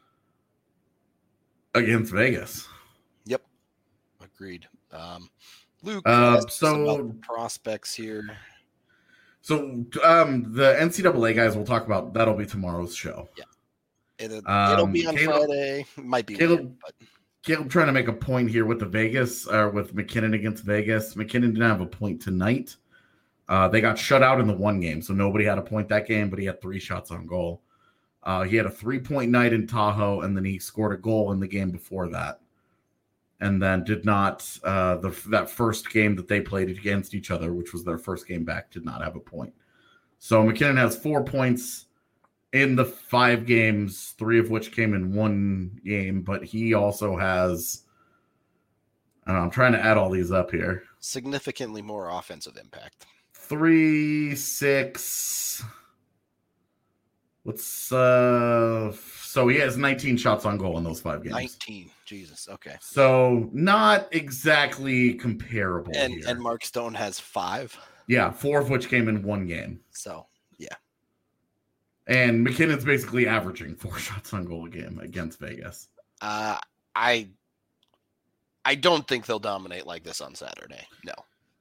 against Vegas. Yep, agreed. Um, Luke, uh, so so about the prospects here. So um, the N C double A guys we'll talk about. That'll be tomorrow's show. Yeah, it, um, it'll be on Caleb, Friday. It might be, Caleb, weird, but Caleb trying to make a point here with the Vegas, or uh, with McKinnon against Vegas. McKinnon didn't have a point tonight. Uh, they got shut out in the one game, so nobody had a point that game, but he had three shots on goal. Uh, he had a three-point night in Tahoe, and then he scored a goal in the game before that. And then did not, uh, the that first game that they played against each other, which was their first game back, did not have a point. So McKinnon has four points in the five games, three of which came in one game, but he also has, I don't know, I'm trying to add all these up here. Significantly more offensive impact. Three, six, what's, uh, so he has nineteen shots on goal in those five games. nineteen. Jesus. Okay. So not exactly comparable. And here. and Mark Stone has five. Yeah, four of which came in one game. So yeah. And McKinnon's basically averaging four shots on goal a game against Vegas. Uh, I I don't think they'll dominate like this on Saturday. No.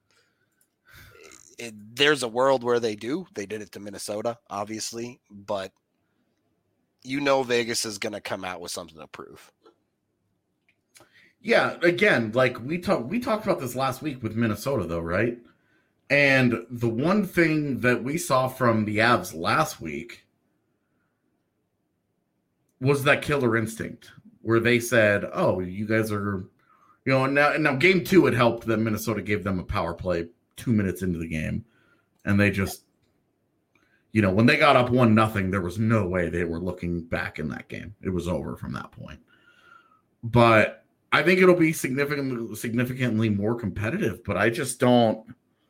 It, there's a world where they do. They did it to Minnesota, obviously, but you know Vegas is going to come out with something to prove. Yeah, again, like we talked we talked about this last week with Minnesota, though, right? And the one thing that we saw from the Avs last week was that killer instinct, where they said, "Oh, you guys are, you know." Now, now, game two, it helped that Minnesota gave them a power play two minutes into the game, and they just, you know, when they got up one nothing, there was no way they were looking back in that game. It was over from that point. But I think it'll be significantly significantly more competitive, but I just don't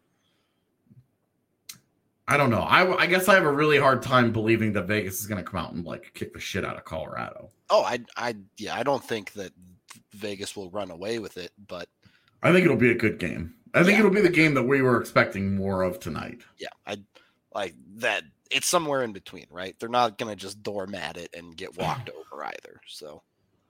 I don't know. I, I guess I have a really hard time believing that Vegas is going to come out and like kick the shit out of Colorado. Oh, I I yeah, I don't think that Vegas will run away with it, but I think it'll be a good game. I think yeah. it'll be the game that we were expecting more of tonight. Yeah, I like that. It's somewhere in between, right? They're not going to just doormat it and get walked over either. So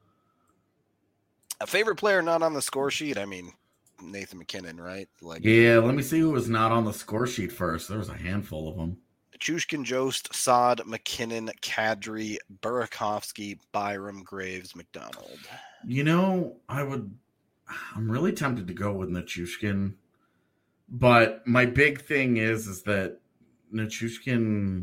a favorite player not on the score sheet, I mean, Nathan McKinnon, right? Like, yeah, let me see who was not on the score sheet first. There was a handful of them. Nichushkin, Jost, Sod, McKinnon, Kadri, Burakovsky, Byram, Graves, McDonald. You know, I would. I'm really tempted to go with Nichushkin, but my big thing is is that Nichushkin.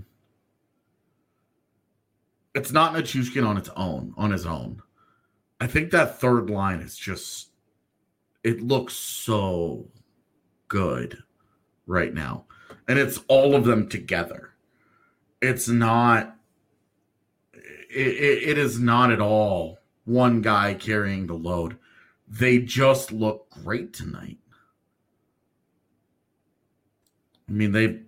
It's not Nichushkin on its own, on his own. I think that third line is just. It looks so good right now. And it's all of them together. It's not, it, it, it is not at all one guy carrying the load. They just look great tonight. I mean, they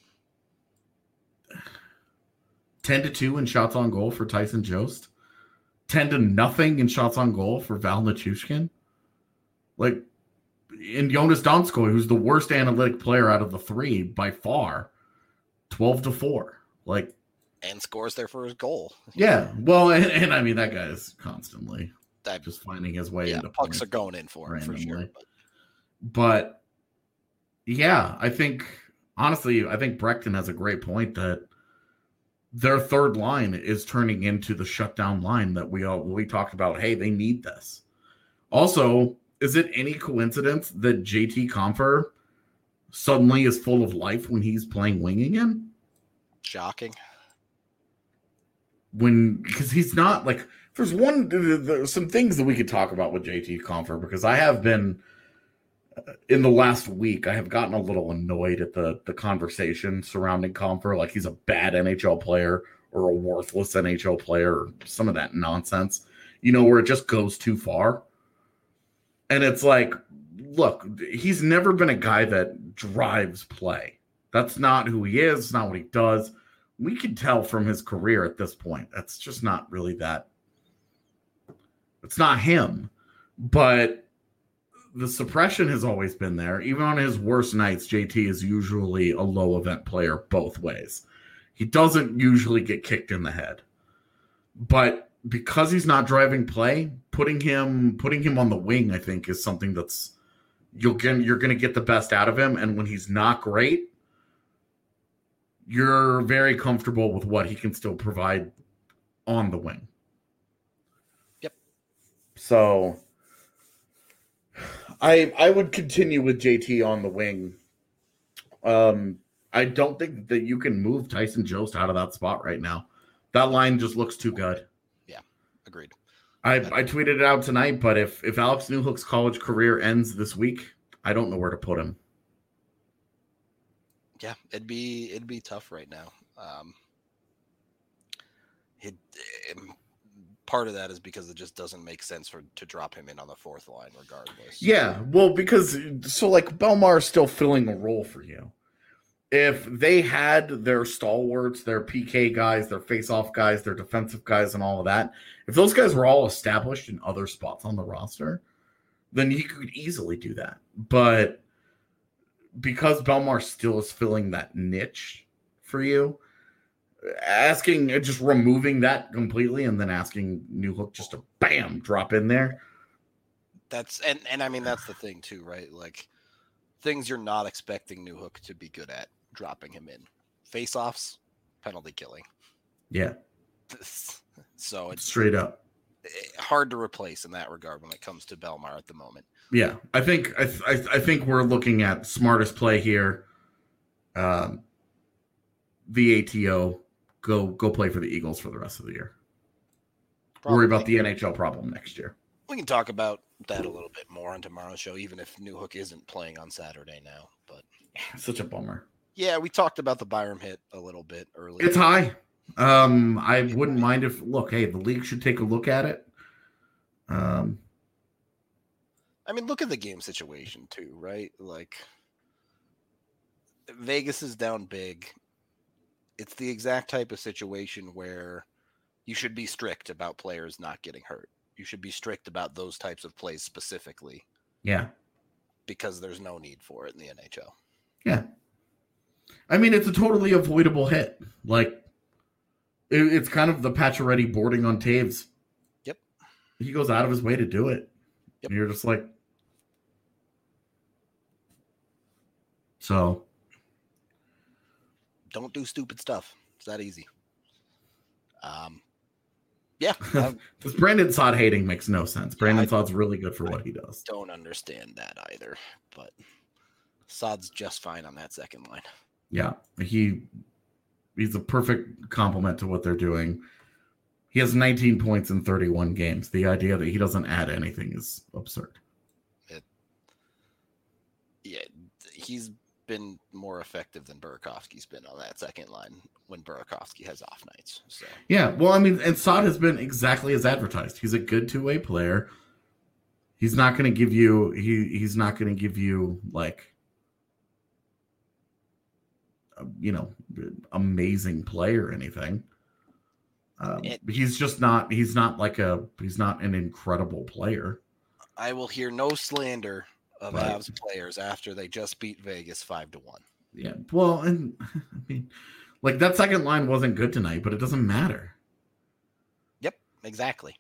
ten to two in shots on goal for Tyson Jost, ten to nothing in shots on goal for Val Nichushkin. Like, in Jonas Donskoy, who's the worst analytic player out of the three by far, twelve to four. Like, and scores their first goal. Yeah. Well, and, and I mean, that guy is constantly that, just finding his way yeah, into pucks are going in for him, for sure. But. but, yeah, I think, honestly, I think Brecton has a great point that their third line is turning into the shutdown line that we all we talked about. Hey, they need this. Also, is it any coincidence that J T Compher suddenly is full of life when he's playing wing again? Shocking. When, because he's not like, there's one, there's some things that we could talk about with J T Compher, because I have been, in the last week, I have gotten a little annoyed at the, the conversation surrounding Compher, like he's a bad N H L player or a worthless N H L player, or some of that nonsense, you know, where it just goes too far. And it's like, look, he's never been a guy that drives play. That's not who he is. It's not what he does. We can tell from his career at this point. That's just not really that. It's not him. But the suppression has always been there. Even on his worst nights, J T is usually a low event player both ways. He doesn't usually get kicked in the head. But because he's not driving play, putting him putting him on the wing, I think, is something that's you'll get, you're going to get the best out of him. And when he's not great, you're very comfortable with what he can still provide on the wing. Yep. So I I would continue with J T on the wing. Um, I don't think that you can move Tyson Jost out of that spot right now. That line just looks too good. Yeah, agreed. I, I tweeted it out tonight, but if, if Alex Newhook's college career ends this week, I don't know where to put him. Yeah, it'd be it'd be tough right now. Um, it, it, part of that is because it just doesn't make sense for to drop him in on the fourth line, regardless. Yeah, well, because so like Belmar is still filling a role for you. If they had their stalwarts, their P K guys, their face-off guys, their defensive guys, and all of that, if those guys were all established in other spots on the roster, then you could easily do that. But because Belmar still is filling that niche for you, asking, just removing that completely and then asking Newhook just to bam, drop in there. That's, and, and I mean, that's the thing too, right? Like things you're not expecting Newhook to be good at, dropping him in. Face-offs, penalty killing. Yeah. So it's straight up hard to replace in that regard when it comes to Belmar at the moment. Yeah, I think I, th- I think we're looking at smartest play here. Um, the A T O, go go play for the Eagles for the rest of the year. Probably. Worry about the N H L problem next year. We can talk about that a little bit more on tomorrow's show, even if Newhook isn't playing on Saturday now. But such a bummer. Yeah, we talked about the Byram hit a little bit earlier. It's high. Um, I wouldn't mind if look. Hey, the league should take a look at it. Um. I mean, look at the game situation too, right? Like Vegas is down big. It's the exact type of situation where you should be strict about players not getting hurt. You should be strict about those types of plays specifically. Yeah. Because there's no need for it in the N H L. Yeah. I mean, it's a totally avoidable hit. Like, it, it's kind of the Pacioretty boarding on Taves. Yep. He goes out of his way to do it. Yep. And you're just like, so don't do stupid stuff. It's that easy. Um, yeah. I, This Brandon Saad hating makes no sense. Brandon I, Saad's really good for what I he does. Don't understand that either, but Saad's just fine on that second line. Yeah, he he's a perfect complement to what they're doing. He has nineteen points in thirty-one games. The idea that he doesn't add anything is absurd. It, yeah, he's been more effective than Burakovsky's been on that second line when Burakovsky has off nights. So yeah, well, I mean, and Saad has been exactly as advertised. He's a good two-way player. He's not going to give you he he's not going to give you like a, you know, amazing play or anything. Um, it, he's just not he's not like a he's not an incredible player. I will hear no slander of Right. Avs players after they just beat Vegas five to one. Yeah, well, and I mean, like that second line wasn't good tonight, but it doesn't matter. Yep, exactly.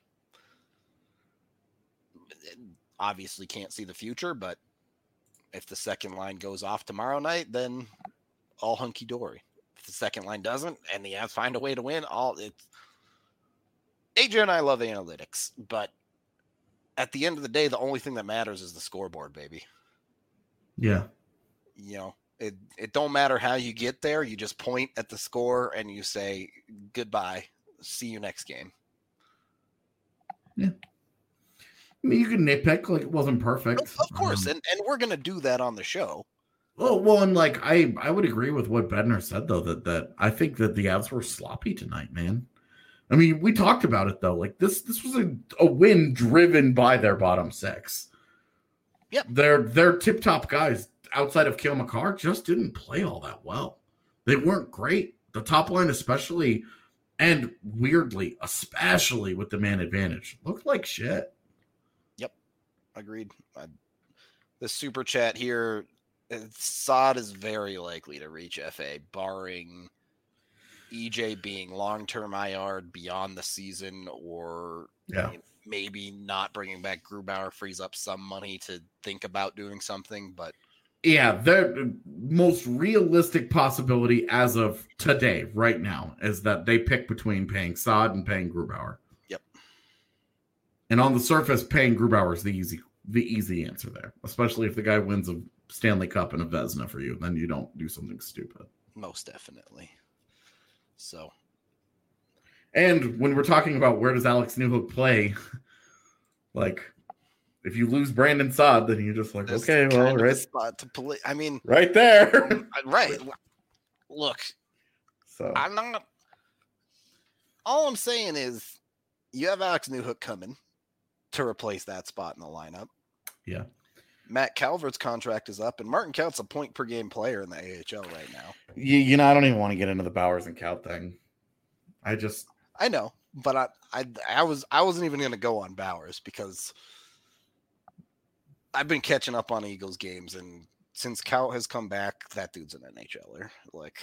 Obviously can't see the future, but if the second line goes off tomorrow night, then all hunky dory. If the second line doesn't, and the Avs find a way to win, all it's. A J and I love analytics, but at the end of the day, the only thing that matters is the scoreboard, baby. Yeah, You know, it it don't matter how you get there. You just point at the score and you say goodbye. See you next game. yeah. I mean, you can nitpick like it wasn't perfect, Of, of course, Um, and and we're gonna do that on the show. well, well, and like I, I would agree with what Bednar said though that that I think that the Avs were sloppy tonight, man. I mean, we talked about it though. Like this, this was a, a win driven by their bottom six. Yep. Their their tip top guys outside of Cale Makar just didn't play all that well. They weren't great. The top line, especially, and weirdly, especially with the man advantage, looked like shit. Agreed. I, the super chat here, Saad is very likely to reach F A, barring E J being long-term I R beyond the season, or Yeah. maybe not bringing back Grubauer frees up some money to think about doing something. But Yeah, the most realistic possibility as of today, right now, is that they pick between paying Saad and paying Grubauer. Yep. And on the surface, paying Grubauer is the easy, the easy answer there, especially if the guy wins a Stanley Cup and a Vezina for you, then you don't do something stupid. most definitely. So, and when we're talking about where does Alex Newhook play, like if you lose Brandon Saad, then you're just like, this okay, kind well, of a right, spot to play. I mean, right there. right. Look, So I'm not. All I'm saying is, you have Alex Newhook coming to replace that spot in the lineup. yeah, Matt Calvert's contract is up, and Martin Count's a point per game player in the A H L right now. you, you know, I don't even want to get into the Bowers and Count thing. I just, I know, but I, I, I was, I wasn't even going to go on Bowers because I've been catching up on Eagles games, and since Count has come back, that dude's an N H L er. Like,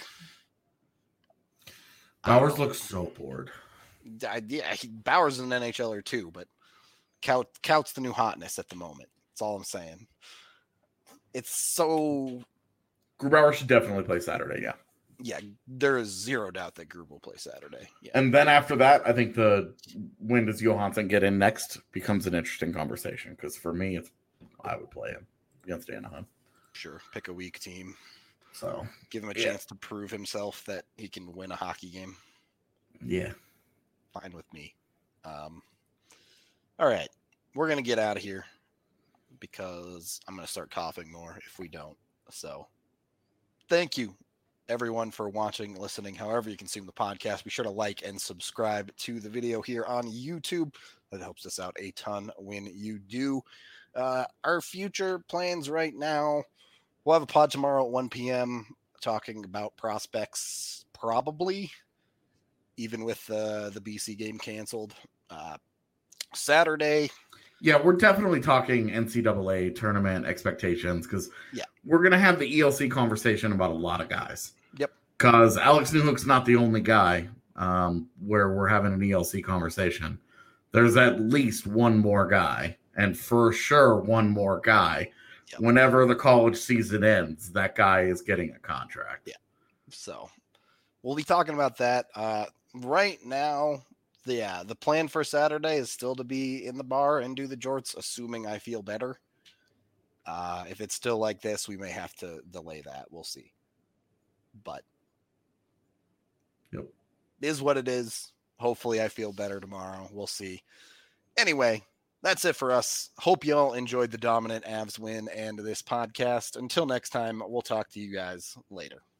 Bowers looks so bored. I, yeah, he, Bowers is an N H L er too, but Count, Count's the new hotness at the moment. That's all I'm saying. It's so Grubauer should definitely play Saturday, yeah. yeah. There is zero doubt that Grub will play Saturday. Yeah, And then after that, I think the when does Johansson get in next becomes an interesting conversation because for me, it's I would play him against Anaheim. sure. Pick a weak team. So Give him a Yeah. chance to prove himself that he can win a hockey game. yeah, Fine with me. Um, all right, we're gonna get out of here because I'm gonna start coughing more if we don't. So, thank you everyone for watching, listening, however you consume the podcast. Be sure to like and subscribe to the video here on YouTube. That helps us out a ton when you do. Uh, our future plans right now, we'll have a pod tomorrow at one p.m. talking about prospects, probably, even with uh, the B C game canceled. Uh, Saturday, yeah, we're definitely talking N C double A tournament expectations because Yeah. we're gonna have the E L C conversation about a lot of guys. Yep. Because Alex Newhook's not the only guy um, where we're having an E L C conversation. There's at least one more guy, and for sure one more guy. Yep. Whenever the college season ends, that guy is getting a contract. Yeah. so we'll be talking about that. Uh, right now, the, yeah, the plan for Saturday is still to be in the bar and do the jorts, assuming I feel better. Uh, if it's still like this, we may have to delay that. We'll see. But Yep. Is what it is. Hopefully I feel better tomorrow. We'll see. Anyway, that's it for us. Hope you all enjoyed the dominant Avs win and this podcast. Until next time, we'll talk to you guys later.